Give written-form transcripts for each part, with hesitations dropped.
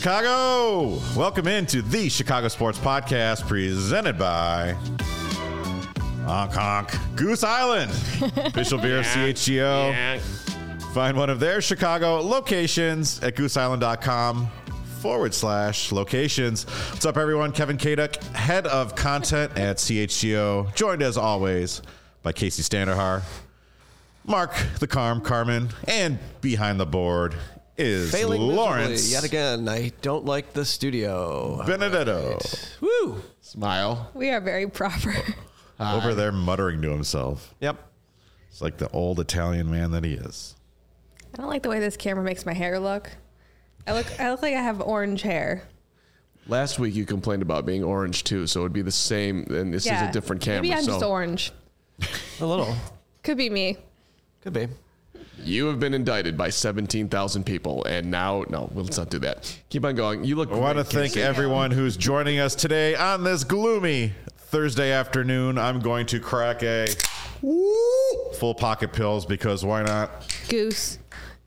Chicago! Welcome into the Chicago Sports Podcast presented by Honk Honk Goose Island. Official beer of CHGO. Yeah. Find one of their Chicago locations at gooseisland.com/locations. What's up, everyone? Kevin Kaduk, head of content at CHGO, joined as always by Casey Standahar, Mark the Carmen, and behind the board is Failing Lawrence. miserably yet again. I don't like the studio. Benedetto. Right. Woo! Smile. We are very proper. Over there muttering to himself. Yep. It's like the old Italian man that he is. I don't like the way this camera makes my hair look. I look like I have orange hair. Last week you complained about being orange too, so it would be the same, and this is a different camera. Maybe I'm so just orange. A little. Could be me. Could be. you have been indicted by 17,000 people, and now, no, let's not do that. Keep on going. You look I want to great, thank Casey. everyone who's joining us today on this gloomy Thursday afternoon. I'm going to crack a full pocket pills because why not? Goose.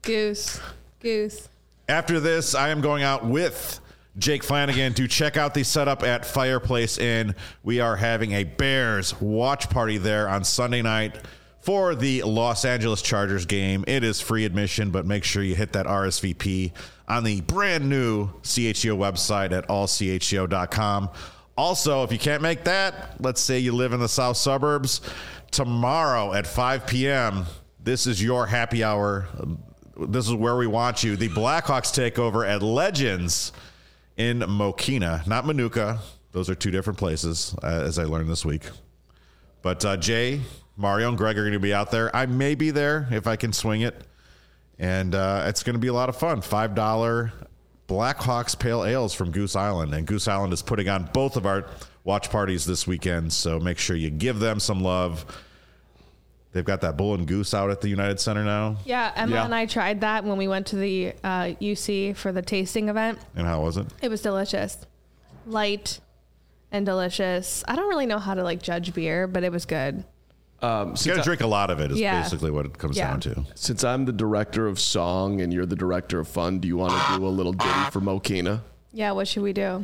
After this, I am going out with Jake Flanagan to check out the setup at Fireplace Inn. We are having a Bears watch party there on Sunday night for the Los Angeles Chargers game. It is free admission, but make sure you hit that RSVP on the brand new CHGO website at allchgo.com. Also, if you can't make that, let's say you live in the south suburbs, tomorrow at 5 p.m., this is your happy hour. This is where we want you. The Blackhawks take over at Legends in Mokina, not Manuka. Those are two different places, as I learned this week. But Jay, Mario, and Greg are going to be out there. I may be there if I can swing it. And it's going to be a lot of fun. $5 Blackhawks Pale Ales from Goose Island. And Goose Island is putting on both of our watch parties this weekend. So make sure you give them some love. They've got that Bull and Goose out at the United Center now. Yeah, Emma and I tried that when we went to the UC for the tasting event. And how was it? It was delicious. Light and delicious. I don't really know how to judge beer, but it was good. You got to drink a lot of it is basically what it comes down to. Since I'm the director of song and you're the director of fun, do you want to do a little ditty for Mokina? Yeah, what should we do?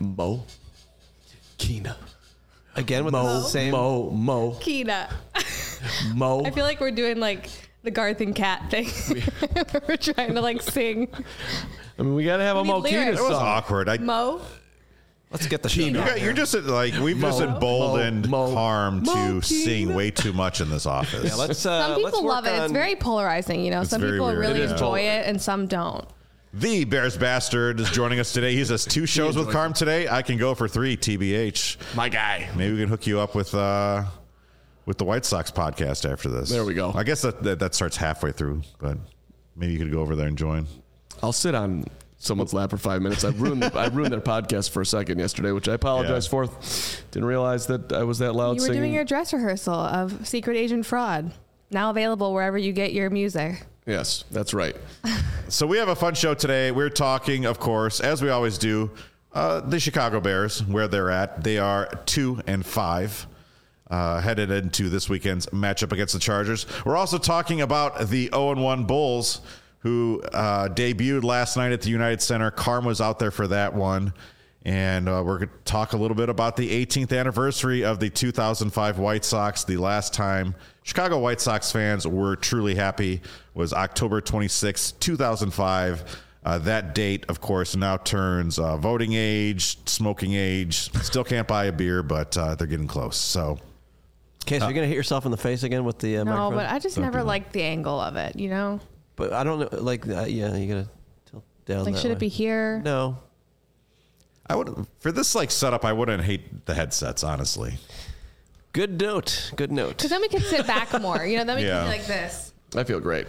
Mokina. Again with the same. Kina. Mo. I feel like we're doing the Garth and Cat thing. We're trying to sing. I mean, we got to have a need Mokina lyrics. It was song. awkward. Mo? Let's get the show. You're just we've just emboldened Carm to sing way too much in this office. Yeah, let's. Some people love it. It's very polarizing, Some very people weird. really It is. enjoy it and some don't. The Bears Bastard is joining us today. He has 2 shows with Carm today. I can go for 3, TBH. My guy. Maybe we can hook you up with the White Sox podcast after this. There we go. I guess that starts halfway through, but maybe you could go over there and join. I'll sit on someone's lap for 5 minutes. I ruined their podcast for a second yesterday, which I apologize for. Didn't realize that I was that loud You were singing. doing your dress rehearsal of Secret Agent Fraud. Now available wherever you get your music. Yes, that's right. So we have a fun show today. We're talking, of course, as we always do, the Chicago Bears, where they're at. They are 2-5. Headed into this weekend's matchup against the Chargers. We're also talking about the 0-1 Bulls, who debuted last night at the United Center. Carm was out there for that one. And we're going to talk a little bit about the 18th anniversary of the 2005 White Sox. The last time Chicago White Sox fans were truly happy was October 26, 2005. That date, of course, now turns voting age, smoking age. Still can't buy a beer, but they're getting close. So, Okay, so you're gonna hit yourself in the face again with the No, microphone? but I just never liked the angle of it, But I don't know. Yeah, you gotta tilt down. that should way. it be here? No. I would for this setup. I wouldn't hate the headsets, honestly. Good note. Good note. Because then we can sit back more. Then we can be Yeah. like this. I feel great.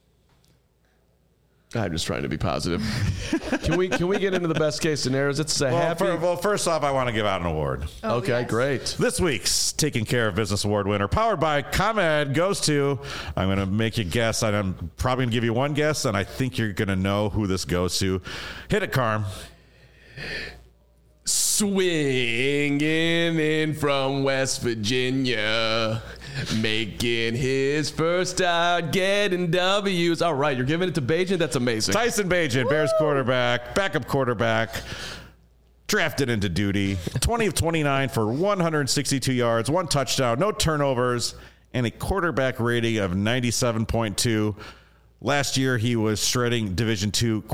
I'm just trying to be positive. Can we get into the best case scenarios? It's a happy. First off, I want to give out an award. Oh, okay, yes. great. This week's Taking Care of Business Award winner, powered by ComEd, goes to, I'm going to make you guess, and I'm probably going to give you one guess, and I think you're going to know who this goes to. Hit it, Carm. Swinging in from West Virginia, making his first start, getting W's. All right, you're giving it to Bagent? That's amazing. Tyson Bagent, Bears quarterback, backup quarterback, drafted into duty. 20 of 29 for 162 yards, 1 touchdown, no turnovers, and a quarterback rating of 97.2. Last year, he was shredding Division II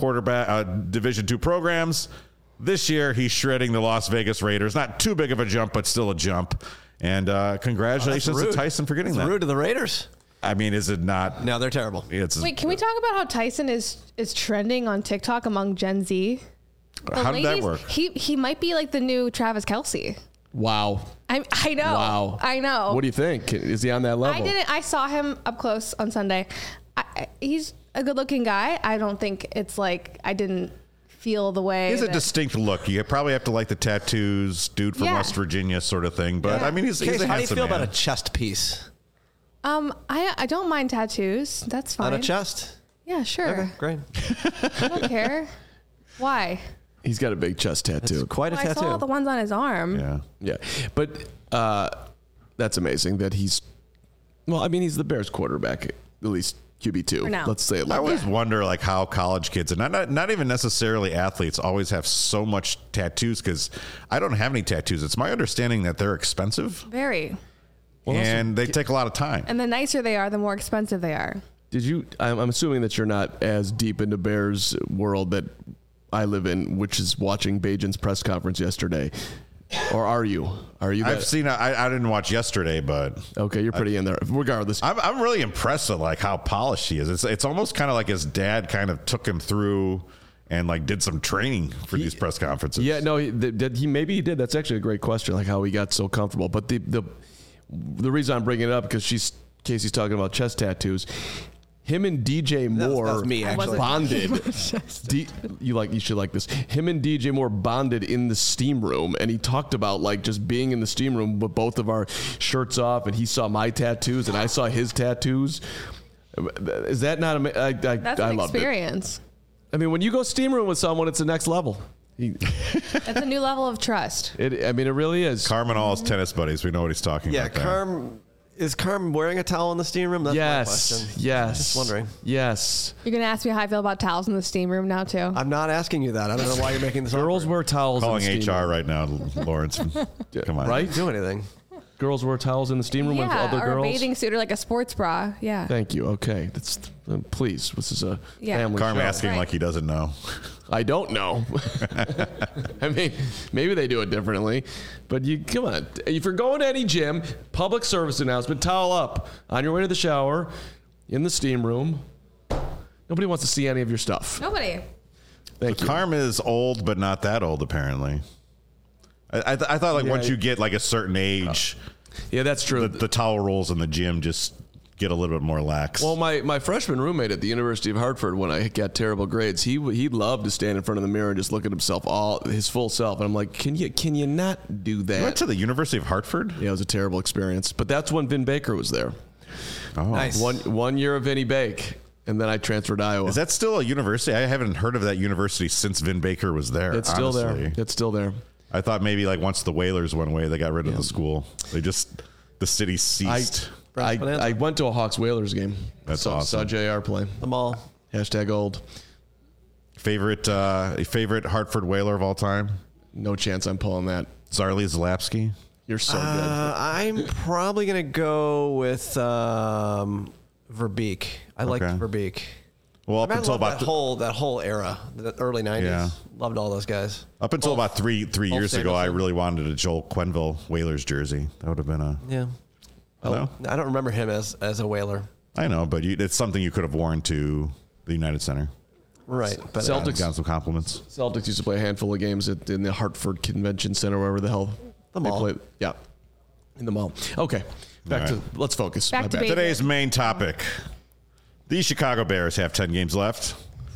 programs. This year, he's shredding the Las Vegas Raiders. Not too big of a jump, but still a jump. And congratulations to Tyson for getting that. Rude to the Raiders. I mean, is it not? No, they're terrible. Wait, can we talk about how Tyson is trending on TikTok among Gen Z? How did that work? He might be like the new Travis Kelce. Wow. I know. Wow. I know. What do you think? Is he on that level? I saw him up close on Sunday. He's a good-looking guy. I don't think it's like I didn't feel the way. He has a distinct look. You probably have to like the tattoos, dude from West Virginia sort of thing. But I mean, he's a handsome man. How do you feel about a chest piece? I don't mind tattoos. That's fine. On a chest? Yeah, sure. Okay, great. I don't care. Why? He's got a big chest tattoo. It's quite a tattoo. I saw the ones on his arm. Yeah. But that's amazing that he's the Bears quarterback, at least QB2. Let's say it like I always wonder like how college kids, and not even necessarily athletes, always have so much tattoos, because I don't have any tattoos. It's my understanding that they're expensive. Very. And they take a lot of time. And the nicer they are, the more expensive they are. I'm assuming that you're not as deep into Bears world that I live in, which is watching Bagent's press conference yesterday. Or are you? I've seen. I didn't watch yesterday, but okay, you're pretty in there. Regardless, I'm really impressed at like how polished he is. It's almost kind of like his dad kind of took him through and like did some training for these press conferences. Yeah, no, he did. That's actually a great question, like how he got so comfortable. But the reason I'm bringing it up because Casey's talking about chest tattoos. Him and DJ Moore that was me, actually. bonded. You should like this. Him and DJ Moore bonded in the steam room, and he talked about like just being in the steam room with both of our shirts off, and he saw my tattoos and I saw his tattoos. Is that not amazing? That's an experience. I mean, when you go steam room with someone, it's the next level. That's a new level of trust. It really is. Carm and all his tennis buddies. We know what he's talking about. Yeah, Is Carm wearing a towel in the steam room? That's my question. Yes. Just wondering. Yes. You're going to ask me how I feel about towels in the steam room now, too? I'm not asking you that. I don't know why you're making this Girls wear towels Calling in the steam HR room. right now, Lawrence. Come on. Right? Do anything. Girls wear towels in the steam room with other or girls? a bathing suit or like a sports bra. Yeah. Thank you. Okay. Please, this is a family Carm show. asking like he doesn't know. I don't know. I mean, maybe they do it differently, but come on. If you're going to any gym, public service announcement, towel up on your way to the shower, in the steam room. Nobody wants to see any of your stuff. Nobody. Thank you. Carm is old, but not that old, apparently. I thought like once you get like a certain age, yeah, that's true. The towel rolls in the gym just get a little bit more lax. Well, my freshman roommate at the University of Hartford, when I got terrible grades, he loved to stand in front of the mirror and just look at himself, his full self. And I'm like, can you not do that? You went to the University of Hartford? Yeah, it was a terrible experience. But that's when Vin Baker was there. Oh, nice. One year of Vinny Bake, and then I transferred to Iowa. Is that still a university? I haven't heard of that university since Vin Baker was there. It's still there. It's still there. I thought maybe like once the Whalers went away, they got rid of the school. The city ceased. I went to a Hawks Whalers game. That's saw awesome. JR play. The mall. #old. Favorite Hartford Whaler of all time? No chance I'm pulling that. Zarly Zalapski. You're so good. I'm probably going to go with Verbeek. I liked Verbeek. Well, up until about that whole era, the early 90s. Yeah. Loved all those guys. Up until about three years ago, I really wanted a Joel Quenneville Whalers jersey. That would have been a... Yeah. No? I don't remember him as a Whaler. I know, but it's something you could have worn to the United Center. Right. But Celtics got some compliments. Celtics used to play a handful of games in the Hartford Convention Center, wherever the hell the mall. they played. Yeah, in the mall. Okay, let's focus. Back to Today's main topic. The Chicago Bears have 10 games left.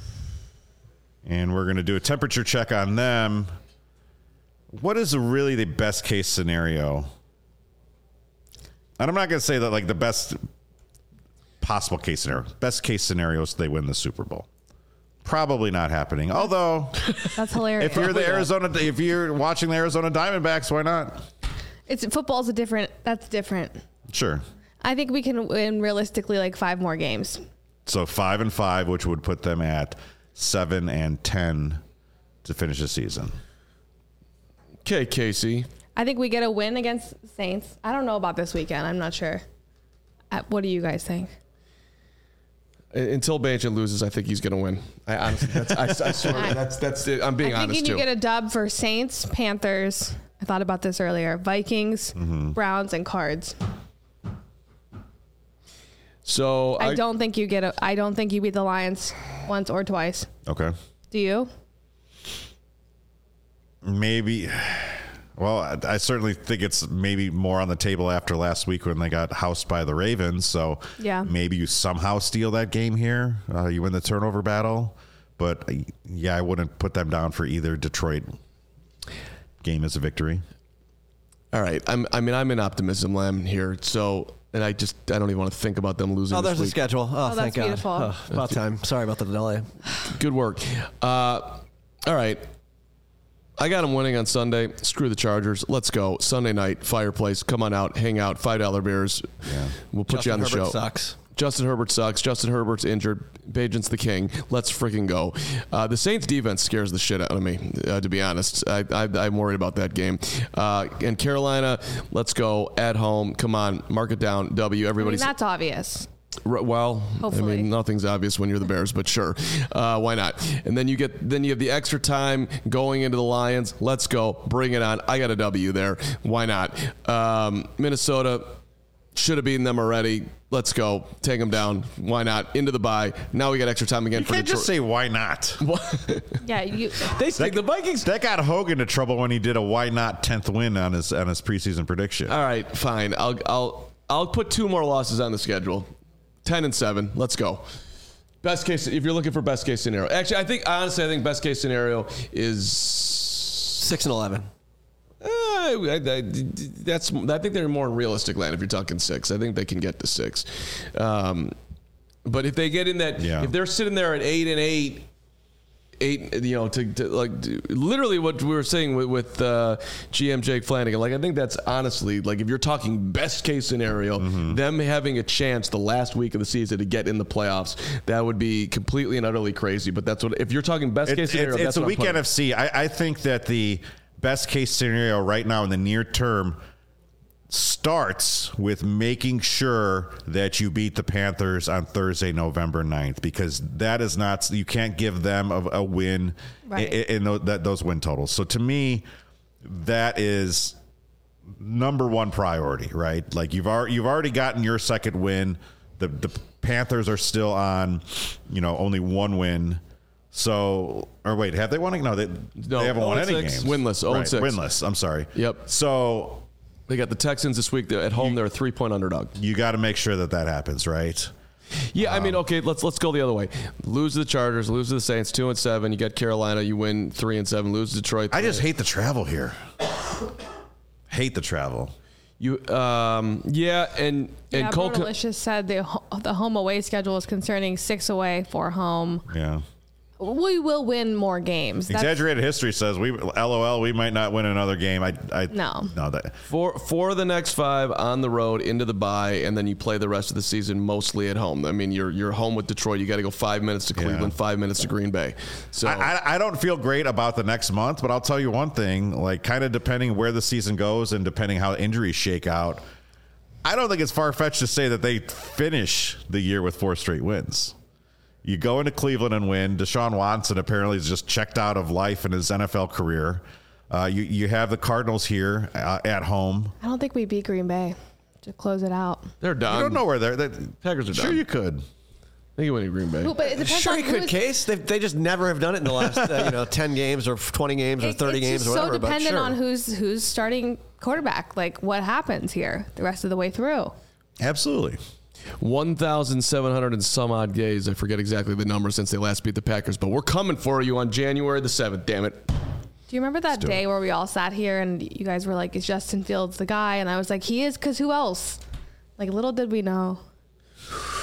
And we're going to do a temperature check on them. What is really the best case scenario? And I'm not going to say that like the best possible case scenario. Best case scenario is they win the Super Bowl. Probably not happening. Although, That's hilarious. if you're watching the Arizona Diamondbacks, why not? That's different. Sure. I think we can win realistically like 5 more games. So 5-5, which would put them at 7-10 to finish the season. Okay, Casey. I think we get a win against Saints. I don't know about this weekend. I'm not sure. What do you guys think? Until Banchin loses, I think he's going to win. I honestly, I swear, that's it. I'm being honest too. You get a dub for Saints, Panthers. I thought about this earlier. Vikings, Browns, and Cards. So I don't think you beat the Lions once or twice. Okay. Do you? Maybe. Well, I certainly think it's maybe more on the table after last week when they got housed by the Ravens. So yeah, maybe you somehow steal that game here. You win the turnover battle. But yeah, I wouldn't put them down for either Detroit game as a victory. All right. I'm in optimism land here. So, and I don't even want to think about them losing. Oh, there's this a week. schedule. Oh, thank that's God. beautiful. Oh, about time. Sorry about the delay. Good work. All right. I got them winning on Sunday. Screw the Chargers. Let's go. Sunday night, Fireplace. Come on out. Hang out. $5 beers. Yeah. We'll put you on the show. Sucks. Justin Herbert sucks. Justin Herbert's injured. Bagent's the king. Let's freaking go. The Saints defense scares the shit out of me, to be honest. I'm worried about that game. And Carolina, let's go at home. Come on, mark it down. W. Everybody's. That's obvious. Well, hopefully. I mean, nothing's obvious when you're the Bears, but sure, why not? And then you have the extra time going into the Lions. Let's go, bring it on. I got a W there. Why not? Minnesota should have beaten them already. Let's go, take them down. Why not? Into the bye. Now we got extra time again You for can't Detroit. just say why not. Yeah, The Vikings. That got Hogan into trouble when he did a why not 10th win on his preseason prediction. All right, fine. I'll put 2 more losses on the schedule. 10-7. Let's go. Best case, if you're looking for best case scenario. Actually, I think best case scenario is 6-11. I think they're more in realistic land if you're talking 6. I think they can get to 6. But if they get in that, if they're sitting there at 8-8, to like literally what we were saying with GM Jake Flanagan. Like, I think that's honestly, like, if you're talking best case scenario, them having a chance the last week of the season to get in the playoffs, that would be completely and utterly crazy. But that's what, if you're talking best case scenario, it's that's a what weak NFC. I think that the best case scenario right now in the near term starts with making sure that you beat the Panthers on Thursday, November 9th, because that is not, you can't give them a win in those win totals. So to me, that is number one priority, right? Like, you've already gotten your second win. The Panthers are still on, only 1 win. So, or wait, have they won? No, they haven't won any games. Winless, 0-6. Winless, I'm sorry. Yep. So they got the Texans this week. At home, they're a 3-point underdog. You got to make sure that happens, right? Yeah, I mean, okay, let's go the other way. Lose to the Chargers, lose to the Saints, 2-7. You got Carolina, you win 3-7. Lose to Detroit. I just hate the travel here. Hate the travel. And Cole Delicious said the home away schedule is concerning 6 away, 4 home. Yeah. We will win more games. Exaggerated history says we might not win another game. No. For the next 5 on the road into the bye, and then you play the rest of the season mostly at home. I mean, you're home with Detroit. You got to go 5 minutes to Cleveland, 5 minutes to Green Bay. So I don't feel great about the next month, but I'll tell you one thing. Like, kind of depending where the season goes and depending how injuries shake out, I don't think it's far-fetched to say that they finish the year with 4 straight wins. You go into Cleveland and win. Deshaun Watson apparently is just checked out of life in his NFL career. You have the Cardinals here at home. I don't think we beat Green Bay to close it out. They're done. You don't know where they're. Packers are done. Sure, you could. They can win Green Bay. But it depends Sure, on you could, Case. They just never have done it in the last 10 games or 20 games or 30 games or whatever. It's so dependent on who's starting quarterback. Like, what happens here the rest of the way through. Absolutely. 1,700 and some odd days. I forget exactly the number since they last beat the Packers, but we're coming for you on January the 7th. Damn it. Do you remember that day where we all sat here and you guys were like, is Justin Fields the guy? And I was like, he is, because who else? Like, little did we know.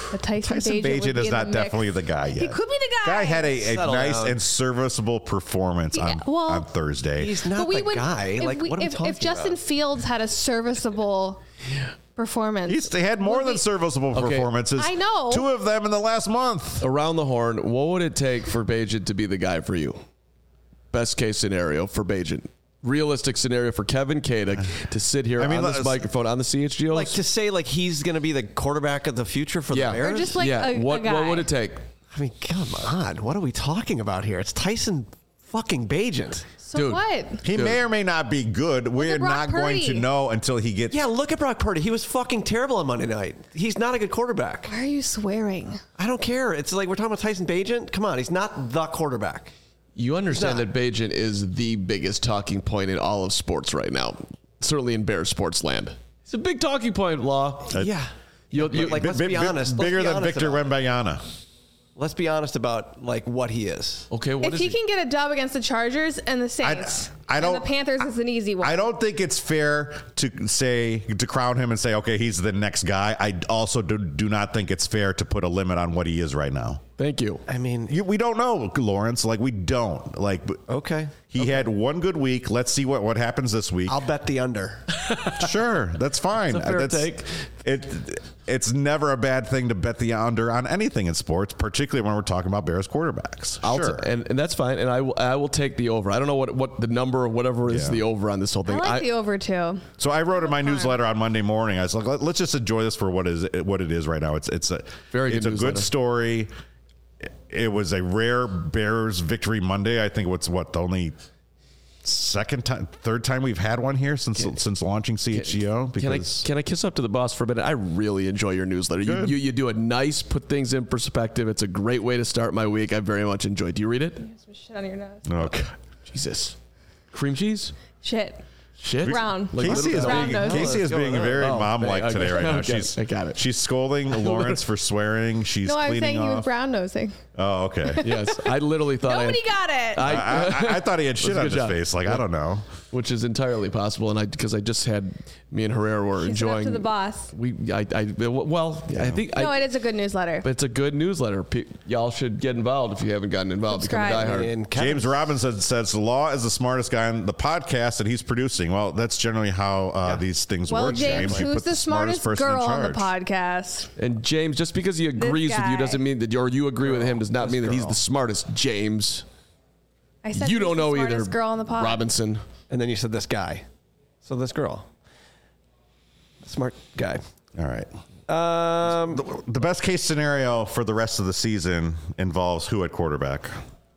But Tyson Bagent would be is in not the mix. definitely the guy yet. He could be the guy. Guy had a Settle nice down. and serviceable performance on Thursday. He's not the guy. Like, what are we talking if Justin about? Fields had a serviceable performance, They had more than serviceable performances. I know. 2 of them in the last month. Around the horn, what would it take for Bagent to be the guy for you? Best case scenario for Bagent. Realistic scenario for Kevin Kadek to sit here on this microphone on the CHGO. Like to say like he's going to be the quarterback of the future for the Bears? or just like a what guy. would it take? I mean, come on. What are we talking about here? It's Tyson fucking Bagent. So Dude. what? He may or may not be good. We're at Brock not going to Purdy. know until he gets. Yeah, look at Brock Purdy. He was fucking terrible on Monday night. He's not a good quarterback. Why are you swearing? I don't care. It's like we're talking about Tyson Bagent. Come on, he's not the quarterback. You understand No. that Bagent is the biggest talking point in all of sports right now, certainly in Bears sports land. It's a big talking point, Law. Yeah. You- But, let's be honest. Let's Bigger be than honest Victor about it. Wembanyama. Let's be honest about like what he is. Okay, what If is he he? can get a dub against the Chargers and the Saints, I don't- and the Panthers is an easy one. I don't think it's fair to crown him and say, okay, he's the next guy. I also do not think it's fair to put a limit on what he is right now. Thank you. I mean, We don't know, Lawrence. Like, we don't. Like, okay. he had one good week. Let's see what happens this week. I'll bet the under. Sure, that's fine. It's a fair take. It's never a bad thing to bet the under on anything in sports, particularly when we're talking about Bears quarterbacks. Sure. And that's fine. And I will take the over. I don't know what the number or whatever is Yeah. the over on this whole I thing. like the over too. So I wrote in my newsletter on Monday morning. I was like, let's just enjoy this for what it is right now. It's a Very good it's a newsletter. good story. It was a rare Bears victory Monday. I think the only third time we've had one here since launching CHGO. Because Can I kiss up to the boss for a minute? I really enjoy your newsletter. You do a nice, put things in perspective. It's a great way to start my week. I very much enjoyed. Do you read it? Some shit on your nose. okay. Jesus. Cream cheese? Shit. Shit? Brown. Like Casey is Brown being, nose. Casey is being very Oh, mom-like okay. today right now. Okay, I got it. She's scolding Lawrence for swearing. She's No, I was cleaning saying he was off. brown nosing. Oh, okay. Yes. I literally thought Nobody got it. I thought he had shit That's a on good his job. face. Like, I don't know. which is entirely possible. And because I just had me and Herrera were Kiss it up enjoying to the boss. I think No, it is a good newsletter. but it's a good newsletter. Y'all should get involved if you haven't gotten involved. Subscribe. Become a diehard. And Kevin- James Robinson says Law is the smartest guy on the podcast that he's producing. Well, that's generally how these things Well, work. James, You who's put the smartest person in girl on the charge. podcast? And James, just because he agrees with you guy. doesn't mean that, or you agree with him does not mean that he's girl. the smartest. James, I said you who's don't the know either. smartest girl on the pod. Robinson. And then you said this guy. So this girl. Smart guy. All right. Um, The best case scenario for the rest of the season involves who at quarterback?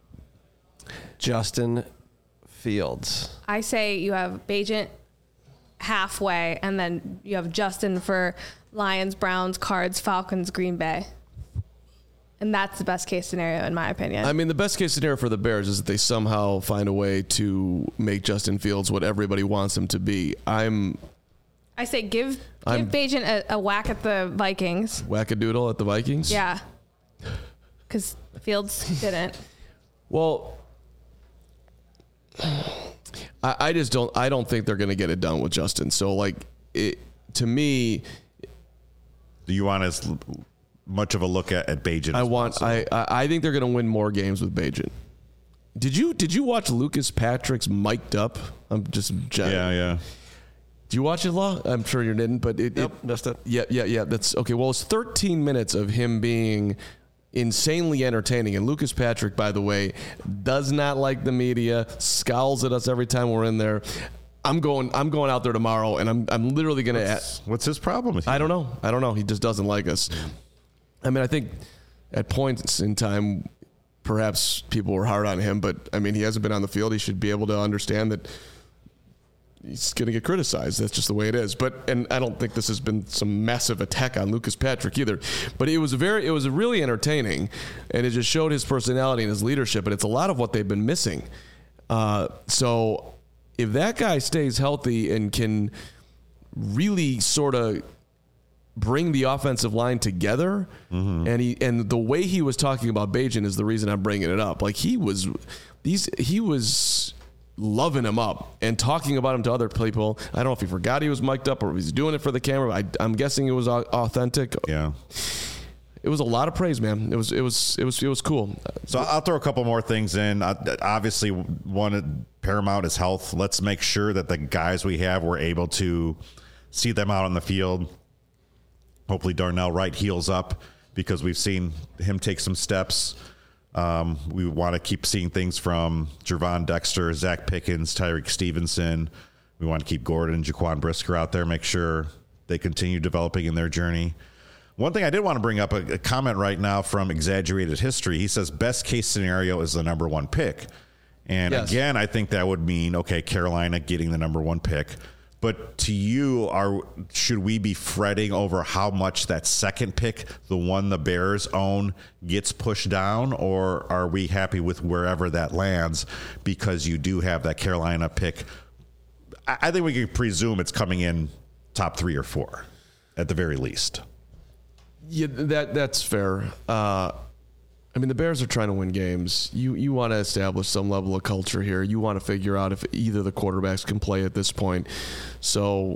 Justin Fields. I say you have Bagent halfway, and then you have Justin for Lions, Browns, Cards, Falcons, Green Bay. And that's the best case scenario, in my opinion. I mean, the best case scenario for the Bears is that they somehow find a way to make Justin Fields what everybody wants him to be. I'm I say give I'm- Bagent a whack at the Vikings. wackadoodle at the Vikings. Yeah. Because Fields didn't. Well, I just don't. I don't think they're going to get it done with Justin. So, like, to me, Do you want as much of a look at Bagent? I think they're going to win more games with Bagent. Did you watch Lucas Patrick's mic'd up? I'm just Yeah. Do you watch it, Law? I'm sure you didn't, but Missed it. Yeah. That's okay. Well, it's 13 minutes of him being insanely entertaining. And Lucas Patrick, by the way, does not like the media, scowls at us every time we're in there. I'm going out there tomorrow, and I'm literally going to. What's his problem with you? I don't know. He just doesn't like us. I mean, I think at points in time, perhaps people were hard on him, but I mean, he hasn't been on the field. He should be able to understand that he's going to get criticized. That's just the way it is. And I don't think this has been some massive attack on Lucas Patrick either. But it was really entertaining, and it just showed his personality and his leadership. And it's a lot of what they've been missing. So if that guy stays healthy and can really sort of bring the offensive line together, and the way he was talking about Bagent is the reason I'm bringing it up. Like he was loving him up and talking about him to other people. I don't know if he forgot he was mic'd up or if he's doing it for the camera. I'm guessing it was authentic. Yeah. it was a lot of praise, man. It was cool. So I'll throw a couple more things in. Obviously, one paramount is health. Let's make sure that the guys we have, we're able to see them out on the field. Hopefully Darnell Wright heals up, because we've seen him take some steps. We want to keep seeing things from Gervon Dexter, Zach Pickens, Tyreek Stevenson. We want to keep Gordon and Jaquan Brisker out there, make sure they continue developing in their journey. One thing I did want to bring up, a comment right now from Exaggerated History. He says best case scenario is the number 1 pick. And yes. Again, I think that would mean, okay, Carolina getting the number 1 pick. But to you, should we be fretting over how much that second pick, the one the Bears own, gets pushed down? Or are we happy with wherever that lands, because you do have that Carolina pick? I think we can presume it's coming in top 3 or 4 at the very least. Yeah, that's fair. I mean, the Bears are trying to win games. You want to establish some level of culture here. You want to figure out if either the quarterbacks can play at this point. So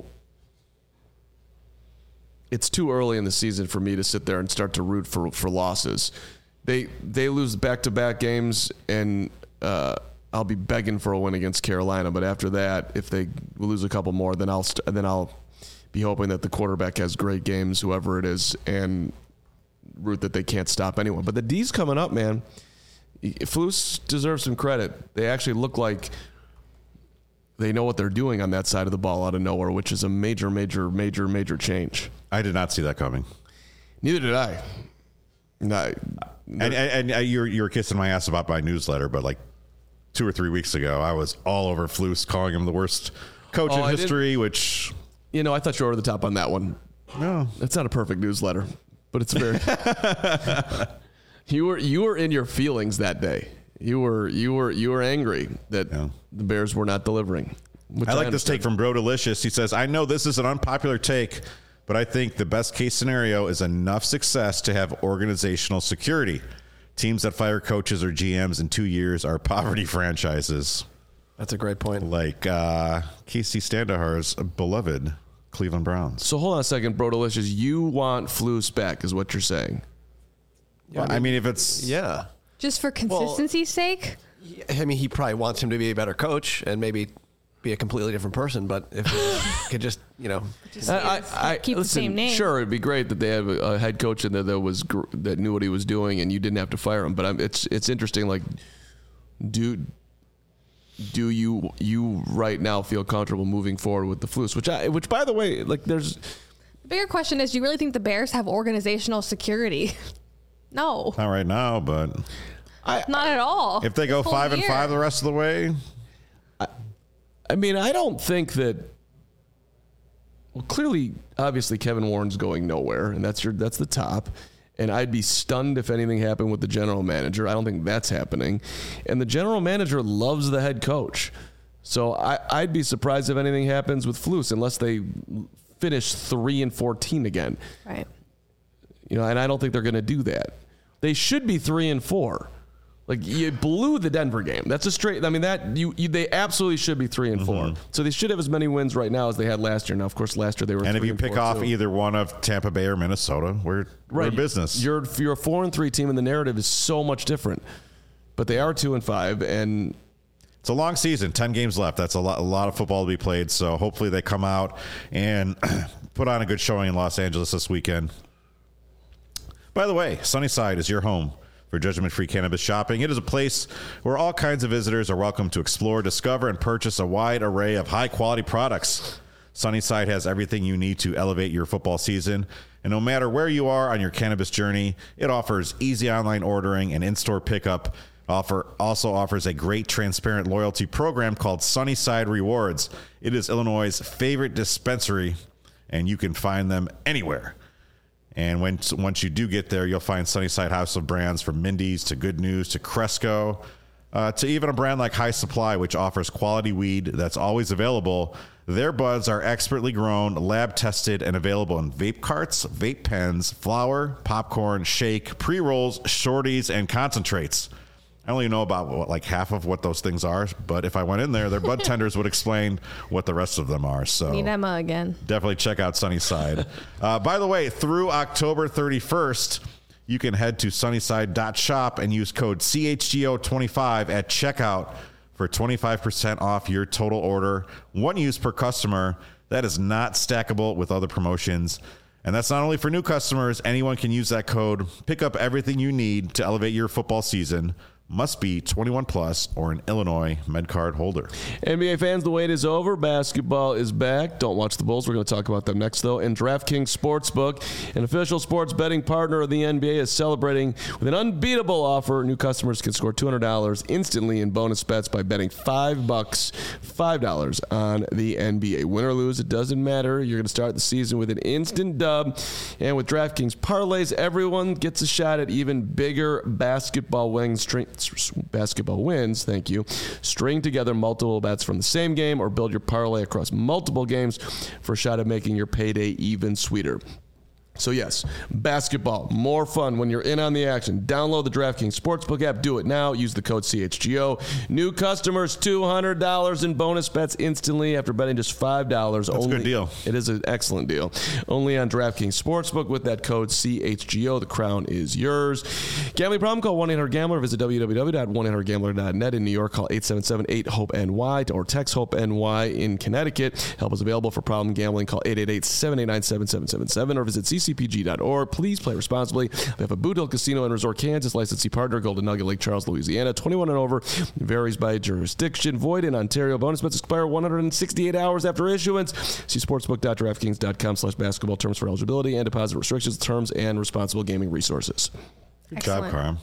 it's too early in the season for me to sit there and start to root for losses. They lose back-to-back games, and I'll be begging for a win against Carolina. But after that, if they lose a couple more, then I'll be hoping that the quarterback has great games, whoever it is, and root that they can't stop anyone. But the D's coming up, man. Flus deserves some credit. They actually look like they know what they're doing on that side of the ball out of nowhere, which is a major, major, major, major change. I did not see that coming. Neither did I. No, and you were kissing my ass about my newsletter, but like 2 or 3 weeks ago, I was all over Flus, calling him the worst coach in history, which... You know, I thought you were over the top on that one. No. It's not a perfect newsletter, but it's very... You were in your feelings that day. You were angry that the Bears were not delivering. I like this take from Bro Delicious. He says, I know this is an unpopular take, but I think the best case scenario is enough success to have organizational security. Teams that fire coaches or GMs in 2 years are poverty franchises. That's a great point. Like Casey Standahar's beloved Cleveland Browns. So hold on a second, Bro Delicious. You want Flus back is what you're saying. Yeah, I mean, if it's... Yeah. Just for consistency's sake? I mean, he probably wants him to be a better coach and maybe be a completely different person, but if he could just, keep the same name. Sure, it'd be great that they have a head coach in there that knew what he was doing and you didn't have to fire him. But it's interesting, like, do you right now feel comfortable moving forward with the Flus? Which by the way, like, there's... The bigger question is, do you really think the Bears have organizational security? No. Not right now, but... Not at all. If they go 5-5 the rest of the way... I mean, I don't think that... Well, clearly, obviously, Kevin Warren's going nowhere, and that's the top. And I'd be stunned if anything happened with the general manager. I don't think that's happening. And the general manager loves the head coach. So I'd be surprised if anything happens with Flus unless they finish 3-14 again. Right. And I don't think they're going to do that. They should be 3-4. Like, you blew the Denver game. That's a straight. I mean, they absolutely should be 3-4. Mm-hmm. So they should have as many wins right now as they had last year. Now, of course, last year they were. And 3-4 if you pick off either one of Tampa Bay or Minnesota, we're in business. You're a 4-3 team, and the narrative is so much different. But they are 2-5, and it's a long season. 10 games left. That's a lot of football to be played. So hopefully they come out and put on a good showing in Los Angeles this weekend. By the way, Sunnyside is your home for judgment-free cannabis shopping. It is a place where all kinds of visitors are welcome to explore, discover, and purchase a wide array of high-quality products. Sunnyside has everything you need to elevate your football season. And no matter where you are on your cannabis journey, it offers easy online ordering and in-store pickup. Also offers a great transparent loyalty program called Sunnyside Rewards. It is Illinois' favorite dispensary, and you can find them anywhere. And once you do get there, you'll find Sunnyside House of Brands from Mindy's to Good News to Cresco to even a brand like High Supply, which offers quality weed that's always available. Their buds are expertly grown, lab tested, and available in vape carts, vape pens, flour, popcorn, shake, pre-rolls, shorties, and concentrates. I only know about half of what those things are, but if I went in there, their bud tenders would explain what the rest of them are. So meet Emma again. Definitely check out Sunnyside. By the way, through October 31st, you can head to sunnyside.shop and use code CHGO25 at checkout for 25% off your total order. One use per customer. That is not stackable with other promotions. And that's not only for new customers. Anyone can use that code. Pick up everything you need to elevate your football season. Must be 21 plus or an Illinois MedCard holder. NBA fans, the wait is over. Basketball is back. Don't watch the Bulls. We're going to talk about them next, though. And DraftKings Sportsbook, an official sports betting partner of the NBA, is celebrating with an unbeatable offer. New customers can score $200 instantly in bonus bets by betting $5 on the NBA. Win or lose, it doesn't matter. You're going to start the season with an instant dub. And with DraftKings parlays, everyone gets a shot at even bigger basketball wins. Thank you. String together multiple bets from the same game or build your parlay across multiple games for a shot at making your payday even sweeter. So yes, basketball, more fun when you're in on the action. Download the DraftKings Sportsbook app. Do it now. Use the code CHGO. New customers, $200 in bonus bets instantly after betting just $5. That's a good deal. It is an excellent deal. Only on DraftKings Sportsbook with that code CHGO. The crown is yours. Gambling problem? Call 1-800-GAMBLER. Visit www.1800gambler.net. In New York, call 877-8-HOPE-NY or text HOPE-NY. In Connecticut, help is available for problem gambling. Call 888-789-7777 or visit CCPG.org. Please play responsibly. We have a Boot Hill Casino and Resort, Kansas, licensee partner, Golden Nugget, Lake Charles, Louisiana. 21 and over. Varies by jurisdiction. Void in Ontario. Bonus bets expire 168 hours after issuance. See sportsbook.draftkings.com/basketball. Terms for eligibility and deposit restrictions, terms, and responsible gaming resources. Good job, Carm.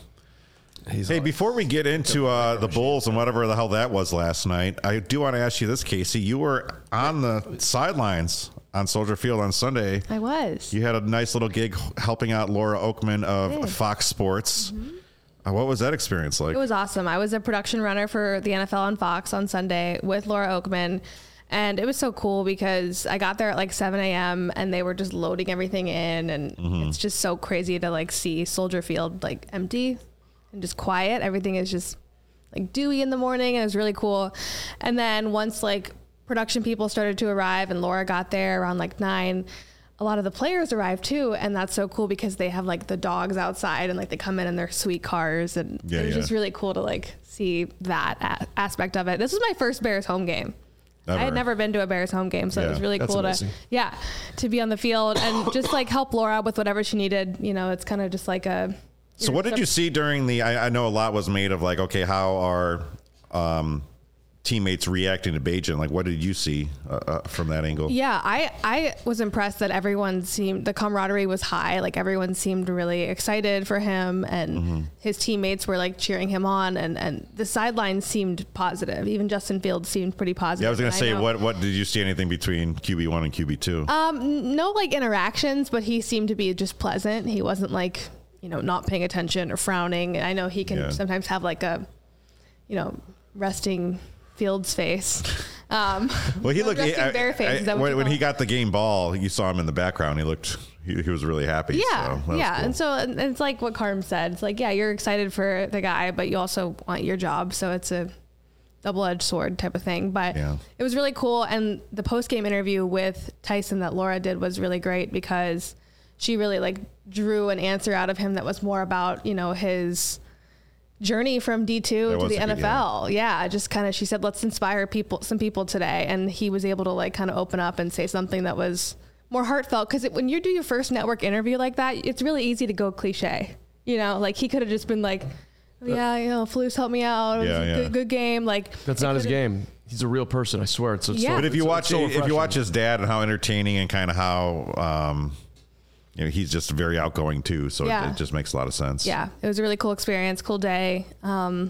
Hey, before we get into the Bulls and whatever the hell that was last night, I do want to ask you this, Casey. You were on the sidelines on Soldier Field on Sunday. I was. You had a nice little gig helping out Laura Oakman of Fox Sports. Mm-hmm. What was that experience like? It was awesome. I was a production runner for the NFL on Fox on Sunday with Laura Oakman. And it was so cool because I got there at like 7 a.m. and they were just loading everything in. And it's just so crazy to like see Soldier Field like empty and just quiet. Everything is just like dewy in the morning, and it was really cool. And then once like production people started to arrive and Laura got there around like 9, a lot of the players arrived too. And that's so cool because they have like the dogs outside and like they come in their sweet cars. And it was just really cool to like see that aspect of it. This was my first Bears home game. Ever. I had never been to a Bears home game, so it was really cool to be on the field and just like help Laura with whatever she needed. You know, it's kind of just like a. So what did you see during the? I know a lot was made of like, okay, how are teammates reacting to Bajan? Like, what did you see from that angle? Yeah, I was impressed that the camaraderie was high. Like everyone seemed really excited for him, and his teammates were like cheering him on, and the sidelines seemed positive. Even Justin Fields seemed pretty positive. Yeah, I was going to say, what did you see anything between QB1 and QB2? No like interactions, but he seemed to be just pleasant. He wasn't like, not paying attention or frowning. I know he can sometimes have like a, resting Fields face. Well, he looked bear face. When he got the game ball, you saw him in the background. He looked, he was really happy. Yeah, so yeah. Cool. And it's like what Carm said. It's like, yeah, you're excited for the guy, but you also want your job. So it's a double-edged sword type of thing. But it was really cool. And the post-game interview with Tyson that Laura did was really great because she really like drew an answer out of him that was more about, his journey from D2 to the NFL. Just kind of, she said, let's inspire some people today. And he was able to like kind of open up and say something that was more heartfelt. Cause when you do your first network interview like that, it's really easy to go cliche, like he could have just been like, Flus helped me out. It was a good game. Like that's not his game. He's a real person. I swear. But if you watch his dad and how entertaining and kind of how, he's just very outgoing too, so it just makes a lot of sense. Yeah, it was a really cool experience, cool day. I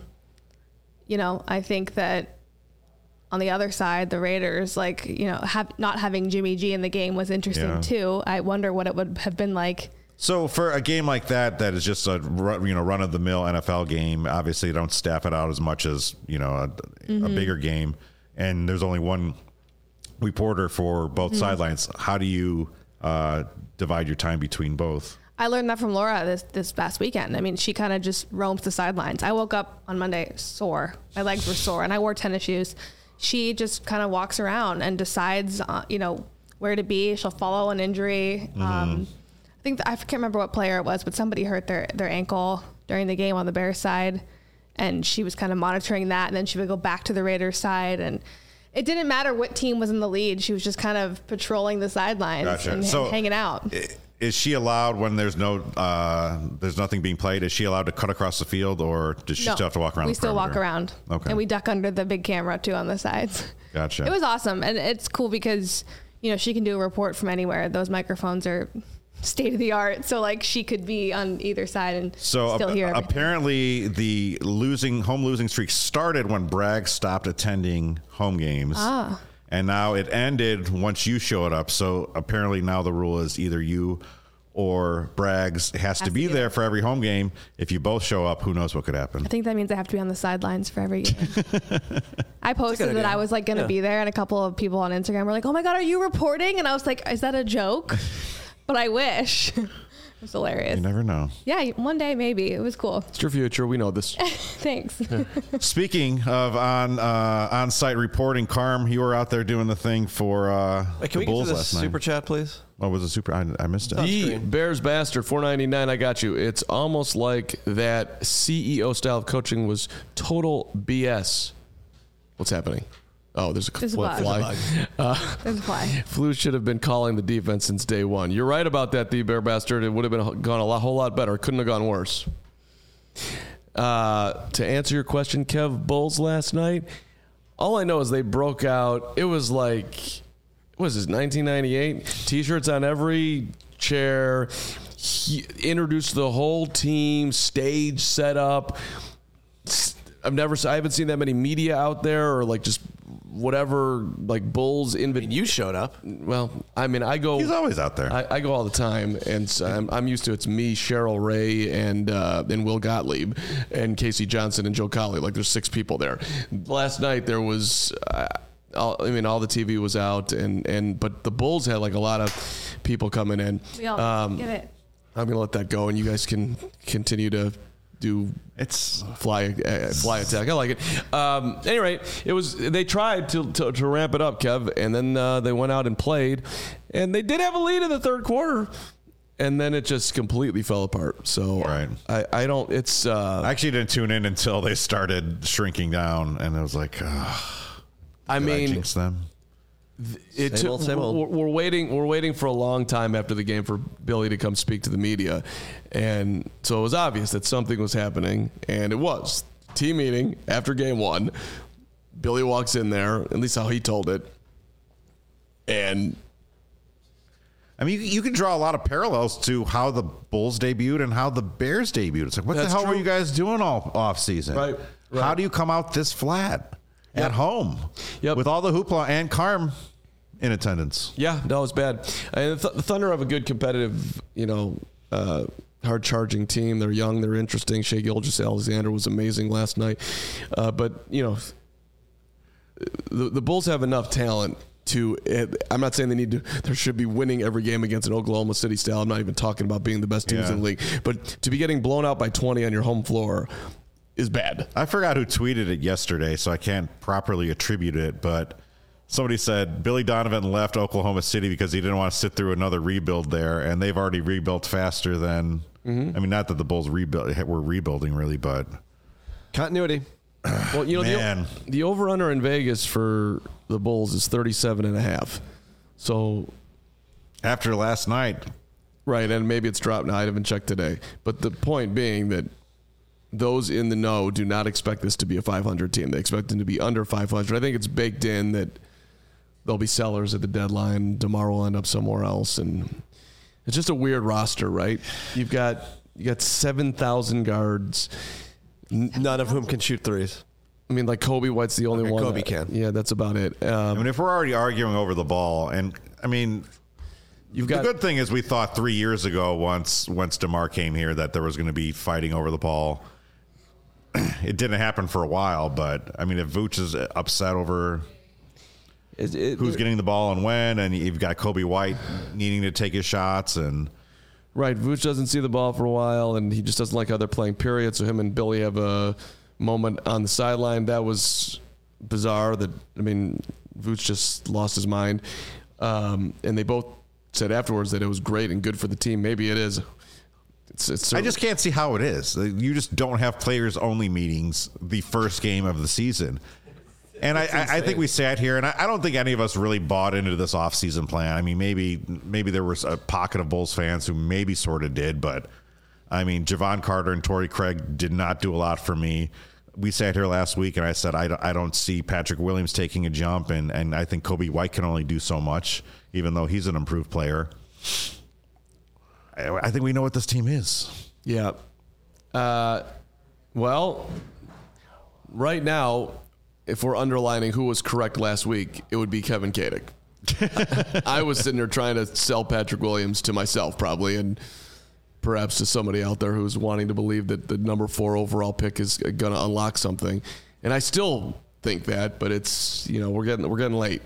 think that on the other side, the Raiders, not having Jimmy G in the game was interesting too. I wonder what it would have been like. So for a game like that is just a run of the mill NFL game. Obviously, you don't staff it out as much as a bigger game, and there's only one reporter for both sidelines. How do you divide your time between both? I learned that from Laura this past weekend. I mean, she kind of just roams the sidelines. I woke up on Monday sore. My legs were sore, and I wore tennis shoes. She just kind of walks around and decides, where to be. She'll follow an injury. I I can't remember what player it was, but somebody hurt their ankle during the game on the Bears side, and she was kind of monitoring that, and then she would go back to the Raiders side, and it didn't matter what team was in the lead. She was just kind of patrolling the sidelines and hanging out. Is she allowed when there's nothing being played? Is she allowed to cut across the field, or does she still have to walk around? We still walk around. Okay. And we duck under the big camera too on the sides. Gotcha. It was awesome, and it's cool because she can do a report from anywhere. Those microphones are state of the art, so like she could be on either side and still hear everything. Apparently the home losing streak started when Bragg stopped attending home games. And now it ended once you showed up. So apparently now the rule is either you or Braggs has to be there for every home game. If you both show up, who knows what could happen. I think that means I have to be on the sidelines for every game. I posted that I was like going to be there, and a couple of people on Instagram were like, "Oh my God, are you reporting?" And I was like, "Is that a joke?" But I wish. It's hilarious. You never know. Yeah, one day maybe. It was cool. It's your future. We know this. Thanks. Speaking of on-site reporting, Carm, you were out there doing the thing for the Bulls last night. Super chat, please? What was the super? I missed it. The Bears Bastard, $4.99. I got you. It's almost like that CEO style of coaching was total BS. What's happening? Oh, there's a fly. There's a fly. Flus should have been calling the defense since day one. You're right about that, the Bear Bastard. It would have gone a whole lot better. Couldn't have gone worse. To answer your question, Kev, Bulls last night, all I know is they broke out. It was like, what was this, 1998? T-shirts on every chair. He introduced the whole team, stage set up. I haven't seen that many media out there, or like just whatever, like Bulls. You showed up. Well, I mean, I go. He's always out there. I go all the time, and so I'm used to it's me, Cheryl Ray, and Will Gottlieb, and Casey Johnson and Joe Colley. Like there's 6 people there. Last night there was. All the TV was out, but the Bulls had like a lot of people coming in. We all get it. I'm gonna let that go, and you guys can continue to do fly attack. I like it. Anyway, they tried to ramp it up, Kev, and then they went out and played, and they did have a lead in the third quarter, and then it just completely fell apart. So right. I don't. It's I actually didn't tune in until they started shrinking down, and I was like, I jinx them. Same old. We're waiting for a long time after the game for Billy to come speak to the media, and so it was obvious that something was happening, and it was team meeting after game 1. Billy walks in there, at least how he told it, and I mean, you can draw a lot of parallels to how the Bulls debuted and how the Bears debuted. It's like, what the hell were you guys doing all off season? Right. How do you come out this flat? At home, with all the hoopla and Carm in attendance. Yeah, no, it's bad. And the Thunder have a good competitive, hard-charging team. They're young, they're interesting. Shai Gilgeous-Alexander was amazing last night. But the Bulls have enough talent to. I'm not saying there should be winning every game against an Oklahoma City style. I'm not even talking about being the best teams in the league. But to be getting blown out by 20 on your home floor is bad. I forgot who tweeted it yesterday, so I can't properly attribute it, but somebody said Billy Donovan left Oklahoma City because he didn't want to sit through another rebuild there, and they've already rebuilt faster than I mean, not that the Bulls were rebuilding really, but continuity. Well, the over-under in Vegas for the Bulls is 37.5. So after last night, right, and maybe it's dropped now. I haven't checked today, but the point being that those in the know do not expect this to be a 500 team. They expect them to be under 500. I think it's baked in that they'll be sellers at the deadline. DeMar will end up somewhere else, and it's just a weird roster, right? You got 7,000 guards, none of whom can shoot threes. I mean, like Kobe White's the only one. Kobe can. Yeah, that's about it. I mean, if we're already arguing over the ball, and I mean, the good thing is we thought 3 years ago, once DeMar came here, that there was going to be fighting over the ball. It didn't happen for a while, but I mean, if Vooch is upset over who's getting the ball and when, and you've got Kobe White needing to take his shots, and right, Vooch doesn't see the ball for a while, and he just doesn't like how they're playing. Period. So him and Billy have a moment on the sideline that was bizarre. Vooch just lost his mind, and they both said afterwards that it was great and good for the team. Maybe it is. I just can't see how it is. You just don't have players-only meetings the first game of the season. And I think we sat here, and I don't think any of us really bought into this offseason plan. I mean, maybe there was a pocket of Bulls fans who maybe sort of did, but, I mean, Javon Carter and Torrey Craig did not do a lot for me. We sat here last week, and I said I don't see Patrick Williams taking a jump, and I think Kobe White can only do so much, even though he's an improved player. I think we know what this team is. Yeah. Well, right now, if we're underlining who was correct last week, it would be Kevin Kadick. I was sitting there trying to sell Patrick Williams to myself, probably, and perhaps to somebody out there who's wanting to believe that the number 4 overall pick is going to unlock something. And I still think that, but it's, we're getting late.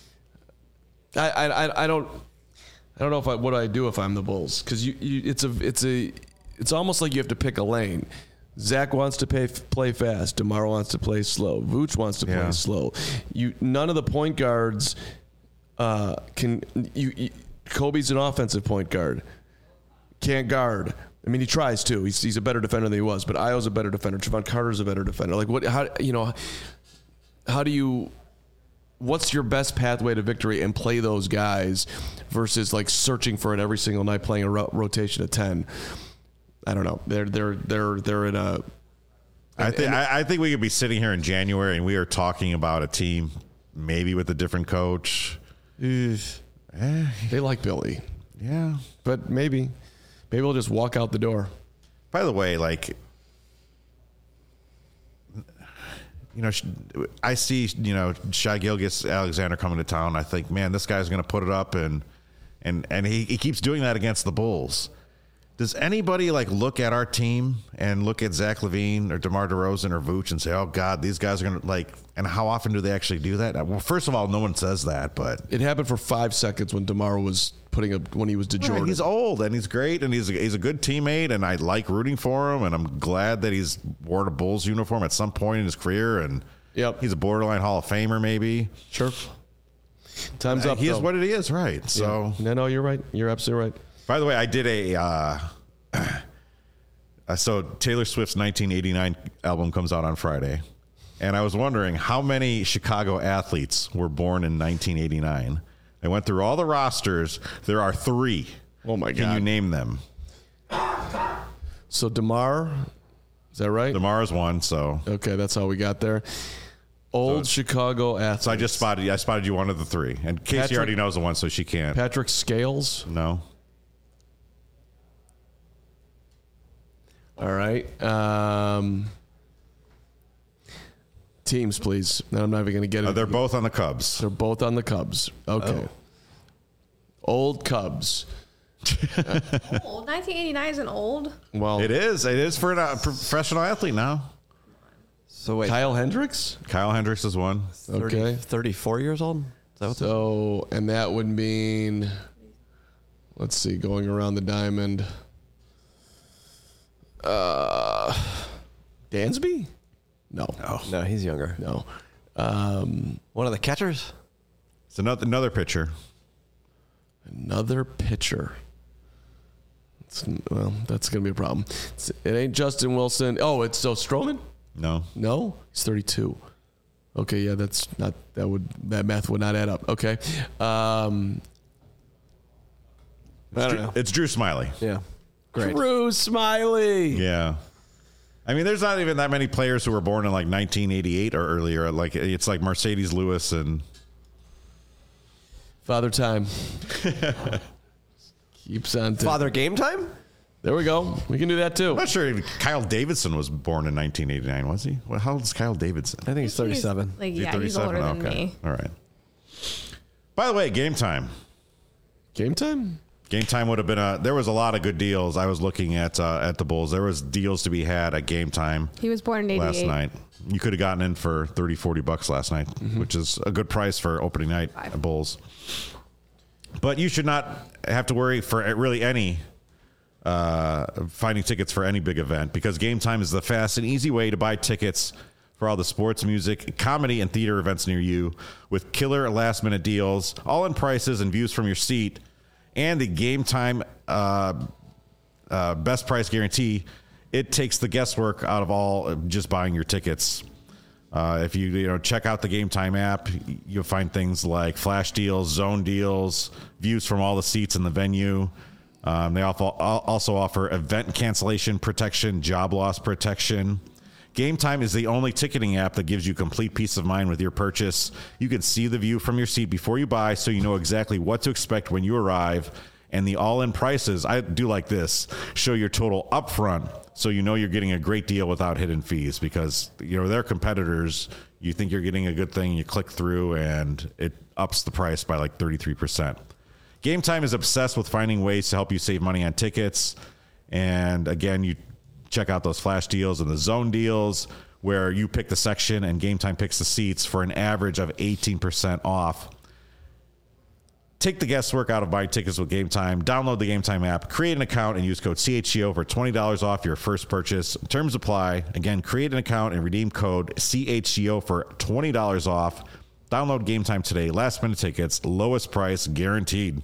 I don't know what I do if I'm the Bulls, because it's almost like you have to pick a lane. Zach wants to play fast. DeMar wants to play slow. Vooch wants to play slow. None of the point guards can. Kobe's an offensive point guard. Can't guard. I mean, he tries to. He's a better defender than he was. But Ayo's a better defender. Javon Carter's a better defender. Like what? How do you? What's your best pathway to victory and play those guys versus like searching for it every single night, playing a rotation of 10? I don't know. They're in a. I think we could be sitting here in January and we are talking about a team maybe with a different coach. They like Billy. Yeah, but maybe we'll just walk out the door. By the way, I see, Shai Gilgeous-Alexander coming to town. I think, man, this guy's going to put it up, and he keeps doing that against the Bulls. Does anybody look at our team and look at Zach LaVine or DeMar DeRozan or Vooch and say, oh God, these guys are going to and how often do they actually do that? Well, first of all, no one says that, but it happened for 5 seconds when DeMar was when he was DeJordan. Right, he's old and he's great and he's a good teammate and I like rooting for him and I'm glad that he's worn a Bulls uniform at some point in his career and he's a borderline Hall of Famer maybe. Sure. Time's up. He is what it is, right? So no, you're right. You're absolutely right. By the way, I did so Taylor Swift's 1989 album comes out on Friday, and I was wondering how many Chicago athletes were born in 1989. I went through all the rosters. There are 3. Oh my God! Can you name them? So DeMar, is that right? DeMar is one. So okay, that's how we got there. Chicago athletes. So I spotted you one of the 3, and Casey already knows the one, so she can't. Patrick Scales. No. All right. Teams, please. No, I'm not even going to get it. They're both on the Cubs. They're both on the Cubs. Okay. Old Cubs. Old. 1989 isn't old. Well, it is. It is for a professional athlete now. So wait. Kyle Hendricks? Kyle Hendricks is one. 34 years old? And that would mean, let's see, going around the diamond. Dansby? No, he's younger. No. One of the catchers? It's another pitcher. Another pitcher. That's going to be a problem. It ain't Justin Wilson. Oh, it's Stroman? No. No? He's 32. Okay, yeah, that math would not add up. Okay. I don't know. It's Drew Smiley. Yeah. Great. Drew Smiley. Yeah. I mean, there's not even that many players who were born in 1988 or earlier. It's like Mercedes Lewis and Father Time. Keeps on. Father Game Time? There we go. We can do that too. I'm not sure Kyle Davidson was born in 1989, was he? How old is Kyle Davidson? I think he's 37. He's older than me. All right. By the way, Game Time. Game Time? Game Time would have been there was a lot of good deals. I was looking at the Bulls. There was deals to be had at Game Time. He was born in 88. Last night. You could have gotten in for $30-$40 last night, which is a good price for opening night at Bulls. But you should not have to worry for really any finding tickets for any big event because Game Time is the fast and easy way to buy tickets for all the sports, music, comedy, and theater events near you with killer last-minute deals, all-in prices and views from your seat. and the Game Time best price guarantee, it takes the guesswork out of all just buying your tickets. If you check out the Game Time app, you'll find things like flash deals, zone deals, views from all the seats in the venue. They also offer event cancellation protection, job loss protection. Game Time is the only ticketing app that gives you complete peace of mind with your purchase. You can see the view from your seat before you buy, so you know exactly what to expect when you arrive. And the all-in prices, I do like this, show your total upfront, so you know you're getting a great deal without hidden fees, because their competitors, you think you're getting a good thing, you click through, and it ups the price by like 33%. Game Time is obsessed with finding ways to help you save money on tickets. And again, you check out those flash deals and the zone deals where you pick the section and Game Time picks the seats for an average of 18% off. Take the guesswork out of buying tickets with Game Time. Download the Game Time app, create an account, and use code CHGO for $20 off your first purchase. Terms apply. Again, create an account and redeem code CHGO for $20 off. Download Game Time today. Last minute tickets, lowest price guaranteed.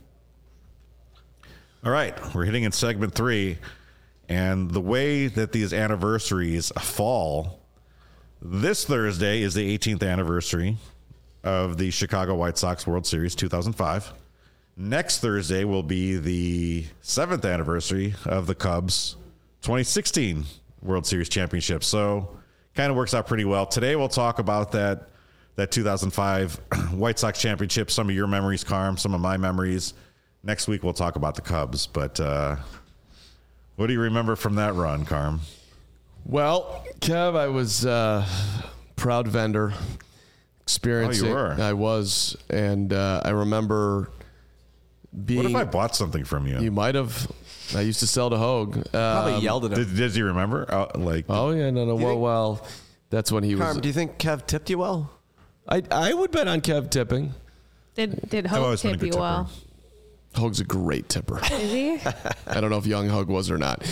All right, we're hitting in segment 3. And the way that these anniversaries fall, this Thursday is the 18th anniversary of the Chicago White Sox World Series 2005. Next Thursday will be the 7th anniversary of the Cubs 2016 World Series championship. So kind of works out pretty well. Today we'll talk about that 2005 White Sox championship, some of your memories, Carm, some of my memories. Next week we'll talk about the Cubs. But what do you remember from that run, Carm? Well, Kev, I was proud vendor. Experiencing. Oh, you were? I was. And I remember being... What if I bought something from you? You might have. I used to sell to Hogue. Probably yelled at him. Does he remember? Oh, yeah, no. Well, that's when he Carm, was... do you think Kev tipped you well? I would bet on Kev tipping. Did Hogue always been a tip good you tipper. well? Hogue's a great tipper. Is he? I don't know if young Hogue was or not.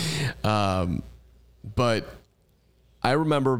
But I remember,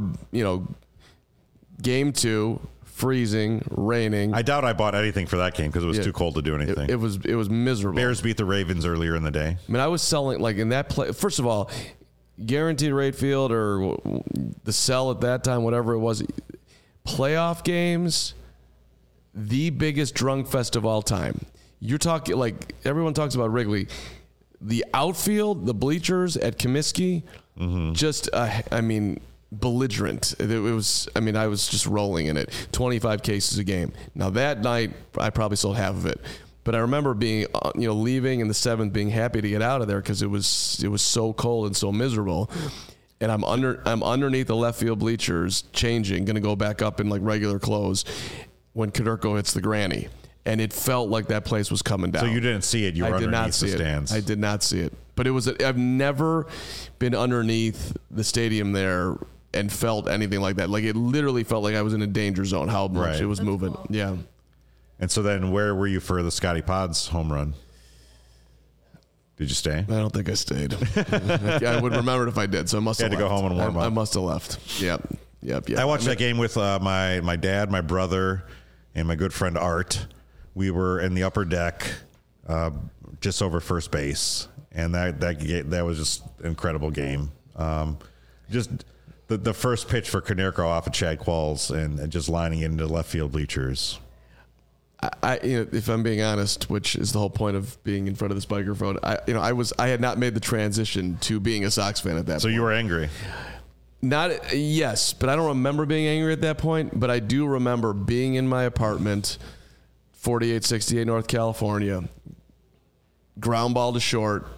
game 2, freezing, raining. I doubt I bought anything for that game because it was too cold to do anything. It was miserable. Bears beat the Ravens earlier in the day. I mean, I was selling, like, in that play. First of all, guaranteed rate field or the sell at that time, whatever it was, playoff games, the biggest drunk fest of all time. You're talking, like, everyone talks about Wrigley. The outfield, the bleachers at Comiskey, just, belligerent. It was, I was just rolling in it. 25 cases a game. Now, that night, I probably sold half of it. But I remember being, leaving in the 7th, being happy to get out of there because it was so cold and so miserable. And I'm underneath the left field bleachers, changing, going to go back up in, like, regular clothes when Koderko hits the granny. And it felt like that place was coming down. So you didn't see it. You were underneath the stands. I did not see it. But I've never been underneath the stadium there and felt anything like that. Like, it literally felt like I was in a danger zone, how much it was moving. Cool. Yeah. And so then where were you for the Scotty Pods home run? Did you stay? I don't think I stayed. I would remember it if I did. So I must have had to go home and warm up. I must have left. Yep. I watched that game with my dad, my brother, and my good friend Art. We were in the upper deck, just over first base, and that was just an incredible game. Just the first pitch for Konerko off of Chad Qualls and just lining it into left field bleachers. If I'm being honest, which is the whole point of being in front of this microphone, I had not made the transition to being a Sox fan at that point. So you were angry? Yes, but I don't remember being angry at that point. But I do remember being in my apartment, 4868 North California, ground ball to short,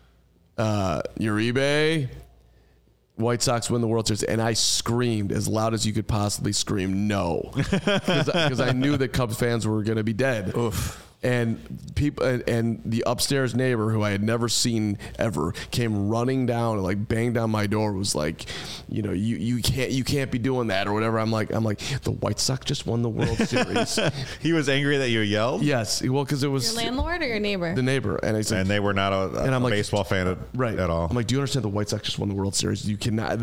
Uribe, White Sox win the World Series, and I screamed as loud as you could possibly scream, no, because I knew that Cubs fans were going to be dead. Oof. And people and the upstairs neighbor, who I had never seen ever, came running down and, like, banged down my door. Was like, you can't be doing that or whatever. I'm like, the White Sox just won the World Series. He was angry that you yelled? Yes, well, because it was Your landlord or your neighbor? the neighbor, and he's like, And they were not a like, baseball fan at all. I'm like, do you understand the White Sox just won the World Series? You cannot.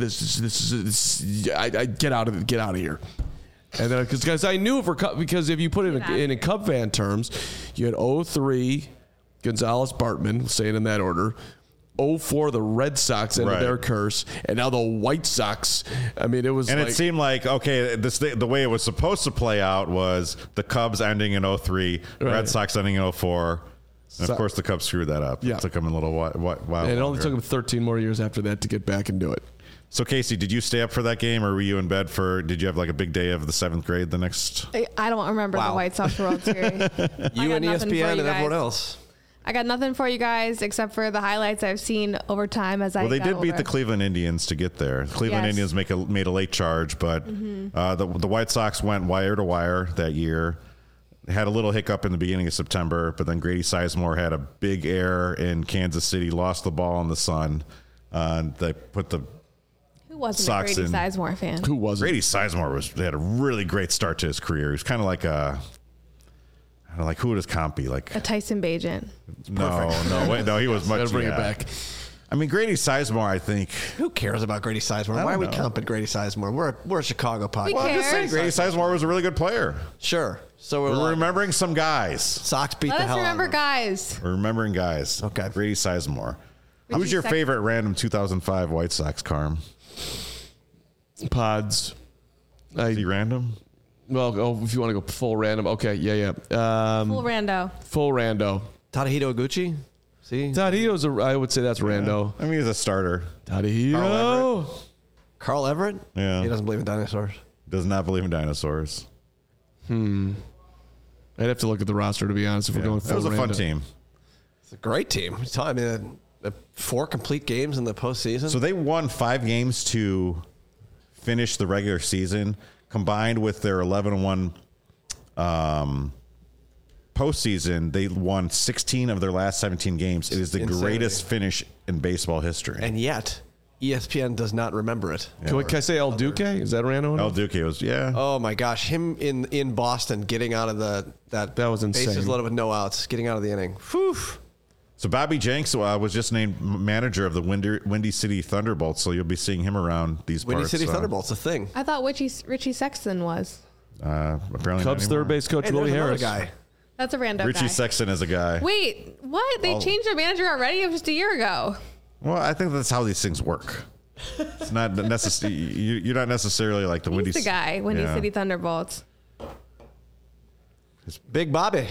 I get out of here. And then, because I knew because if you put it in Cub fan terms, you had 03, Gonzalez, Bartman, say it in that order. 0-4, the Red Sox ended their curse, and now the White Sox. I mean, it was and it seemed like, okay, the way it was supposed to play out was the Cubs ending in 0-3, Red Sox ending in 0-4. And of course, the Cubs screwed that up. Yeah. It took them a little while. And it only took them 13 more years after that to get back and do it. So, Casey, did you stay up for that game, or were you in bed did you have like a big day of the 7th grade the next? I don't remember the White Sox World Series. You and ESPN and everyone else. I got nothing for you guys except for the highlights I've seen over time as I Well, they got did beat older. the Cleveland Indians to get there. Cleveland Indians made a late charge, but the White Sox went wire to wire that year. They had a little hiccup in the beginning of September, but then Grady Sizemore had a big error in Kansas City, lost the ball in the sun. They put the Who wasn't Sox a Grady in- Sizemore fan? Who wasn't? Grady Sizemore had a really great start to his career. He was kind of like who would his comp be? Like A Tyson Bagent. no, he was much. Gotta bring it back. I mean, Grady Sizemore, I think. Who cares about Grady Sizemore? Why are we comping Grady Sizemore? We're a Chicago podcast. Well, I'm just saying, Grady Sizemore was a really good player. Sure. So We're remembering some guys. Sox beat Let the us hell remember out of them. guys. We're remembering guys. Okay. Grady Sizemore. Who's your favorite random 2005 White Sox, Carm? Pods. Is he random? Well, if you want to go full random. Okay, yeah. Full rando. Full rando. Tadahito Oguchi? See? Tadahito's I would say that's rando. I mean, he's a starter. Tadahito. Carl Everett? Yeah. He doesn't believe in dinosaurs. Does not believe in dinosaurs. I'd have to look at the roster, to be honest, if we're going full That was a fun rando. team. It's a great team. I mean, 4 complete games in the postseason. So they won 5 games to finish the regular season, combined with their 11-1 postseason. They won 16 of their last 17 games. It is the greatest finish in baseball history. and yet, ESPN does not remember it. Can I say El Duque? Is that rando? El Duque was, Oh my gosh, him in Boston getting out of that was insane. bases loaded with no outs, getting out of the inning. Whew. So Bobby Jenks was just named manager of the Windy City Thunderbolts, so you'll be seeing him around these Windy parts. City Thunderbolts, a thing. I thought Richie Sexton was. Apparently Cubs not third anymore. base coach Hey, Willie there's another Harris. guy. That's a rando Richie guy. Sexton is a guy. Wait, what? They changed their manager already? It was just a year ago. Well, I think that's how these things work. It's not necessarily you're not necessarily like the Windy. He's the guy, Windy Yeah. City Thunderbolts. Big Bobby.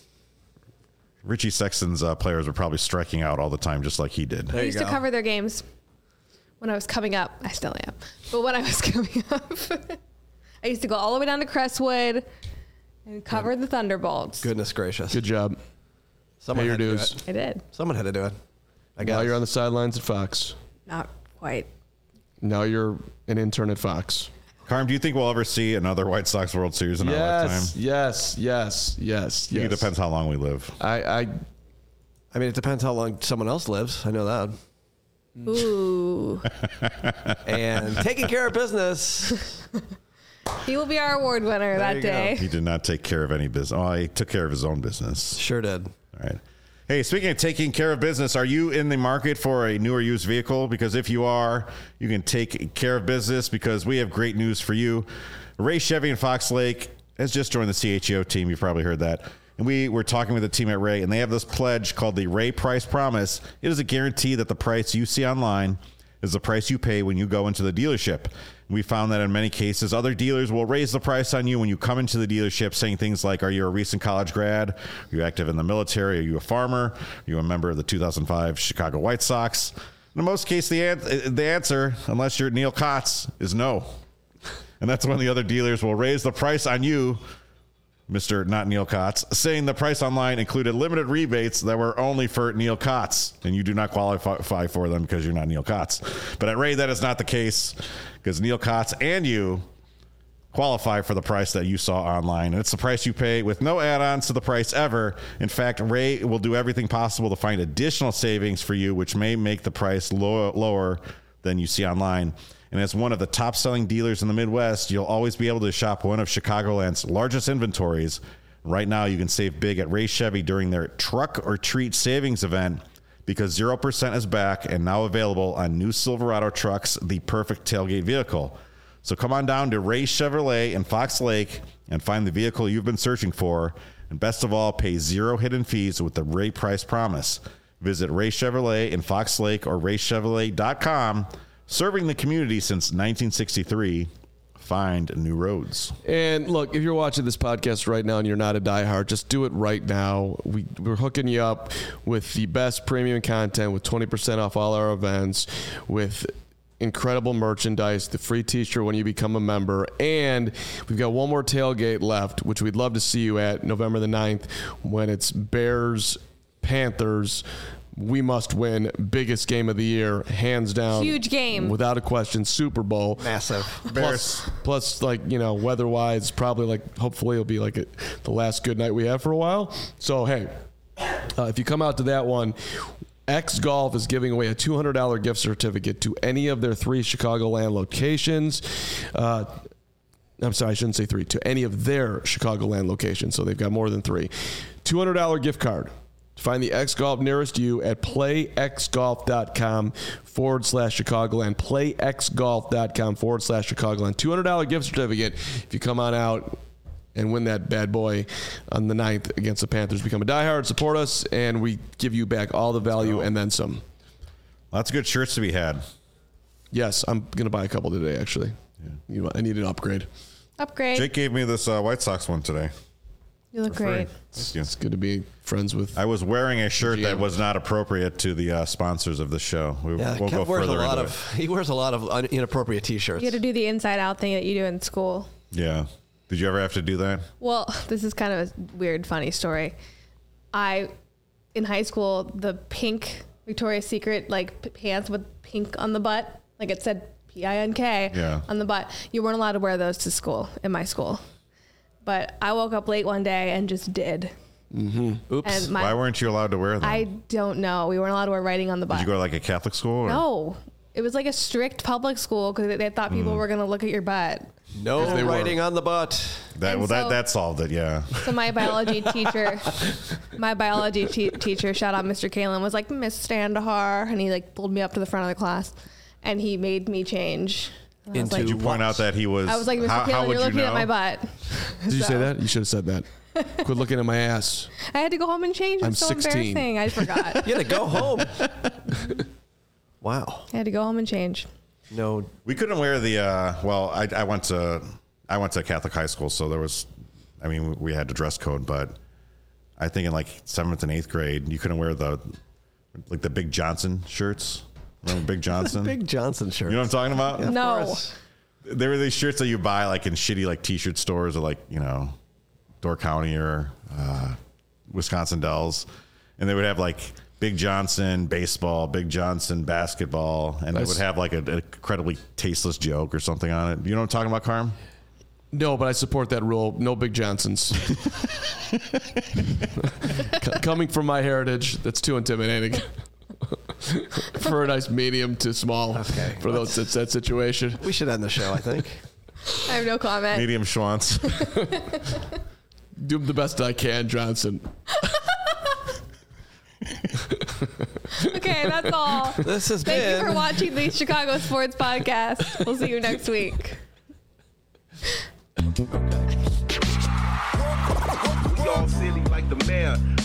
Richie Sexton's players were probably striking out all the time, just like he did. There I you used go. to cover their games when I was coming up. I still am. But when I was coming up, I used to go all the way down to Crestwood and cover the Thunderbolts. Goodness gracious. Good job. Someone Pay your had to do dues. it. I did. Someone had to do it. I guess. Now you're on the sidelines at Fox. Not quite. Now you're an intern at Fox. Carm, do you think we'll ever see another White Sox World Series in our lifetime? Yes. I think it depends how long we live. I mean, it depends how long someone else lives. I know that. Ooh. And taking care of business. He will be our award winner that you go. day. He did not take care of any business. Oh, he took care of his own business. Sure did. All right. Hey, speaking of taking care of business, are you in the market for a new or used vehicle? Because if you are, you can take care of business because we have great news for you. Ray Chevy in Fox Lake has just joined the CHEO team. You've probably heard that. And we were talking with the team at Ray, and they have this pledge called the Ray Price Promise. It is a guarantee that the price you see online is the price you pay when you go into the dealership. We found that in many cases, other dealers will raise the price on you when you come into the dealership, saying things like, are you a recent college grad? Are you active in the military? Are you a farmer? Are you a member of the 2005 Chicago White Sox? In most cases, the answer, unless you're Neil Kotz, is no. And that's when the other dealers will raise the price on you, Mr. Not Neil Kotz, saying the price online included limited rebates that were only for Neil Kotz, and you do not qualify for them because you're not Neil Kotz. But at Ray, that is not the case because Neil Kotz and you qualify for the price that you saw online. And it's the price you pay with no add-ons to the price ever. In fact, Ray will do everything possible to find additional savings for you, which may make the price lower than you see online. And as one of the top-selling dealers in the Midwest, you'll always be able to shop one of Chicagoland's largest inventories. Right now, you can save big at Ray Chevy during their Truck or Treat Savings event because 0% is back and now available on new Silverado trucks, the perfect tailgate vehicle. So come on down to Ray Chevrolet in Fox Lake and find the vehicle you've been searching for. And best of all, pay zero hidden fees with the Ray Price Promise. Visit Ray Chevrolet in Fox Lake or raychevrolet.com. Serving the community since 1963. Find new roads. And look, if you're watching this podcast right now and you're not a diehard, just do it right now. We're hooking you up with the best premium content with 20% off all our events, with incredible merchandise, the free t-shirt when you become a member, and we've got one more tailgate left, which we'd love to see you at November the 9th when it's Bears, Panthers. We must win. Biggest game of the year, hands down. Huge game. Without a question, Super Bowl. Massive. Plus, like, you know, weather-wise, probably, like, hopefully it'll be like the last good night we have for a while. So, hey, if you come out to that one, X Golf is giving away a $200 gift certificate to any of their 3 Chicagoland locations. I'm sorry, I shouldn't say 3. To any of their Chicagoland locations. So they've got more than 3. $200 gift card. Find the X Golf nearest you at playxgolf.com/Chicagoland. Playxgolf.com/Chicagoland. $200 gift certificate if you come on out and win that bad boy on the 9th against the Panthers. Become a diehard, support us, and we give you back all the value and then some. Lots of good shirts to be had. Yes, I'm going to buy a couple today, actually. Yeah. I need an upgrade. Upgrade. Jake gave me this White Sox one today. You look great. It's good to be friends with. I was wearing a shirt that was not appropriate to the sponsors of the show. We'll go further into it. He wears a lot of inappropriate T-shirts. You had to do the inside out thing that you do in school. Yeah. Did you ever have to do that? Well, this is kind of a weird, funny story. In high school, the pink Victoria's Secret pants with pink on the butt, like it said PINK on the butt. You weren't allowed to wear those to school in my school. But I woke up late one day and just did. Mm-hmm. Oops. And why weren't you allowed to wear them? I don't know. We weren't allowed to wear writing on the butt. Did you go to like a Catholic school? Or? No. It was like a strict public school because they thought people were going to look at your butt. No writing on the butt. That solved it, yeah. So my biology teacher, shout out Mr. Kalen, was like, Miss Standahar, and he pulled me up to the front of the class, and he made me change. Did you point out that he was? I was like, Mr. Kalen, you're looking at my butt. Did you say that? You should have said that. Quit looking at my ass. I had to go home and change. It's so 16. embarrassing. I forgot. You had to go home. Wow. I had to go home and change. No, we couldn't wear the. I went to Catholic high school, so we had a dress code, but I think in 7th and 8th grade, you couldn't wear the Big Johnson shirts. Remember Big Johnson? Big Johnson shirts. You know what I'm talking about? Yeah, no. There were these shirts that you buy in shitty t-shirt stores or Door County or Wisconsin Dells, and they would have Big Johnson baseball, Big Johnson basketball, and it would have an incredibly tasteless joke or something on it. You know what I'm talking about, Carm? No, but I support that rule. No Big Johnsons. Coming from my heritage, that's too intimidating. For a nice medium to small for that situation. We should end the show, I think. I have no comment. Medium Schwantz. Do the best I can, Johnson. Okay, that's all. This has Thank been. you for watching the Chicago Sports Podcast. We'll see you next week. We all silly like the mayor.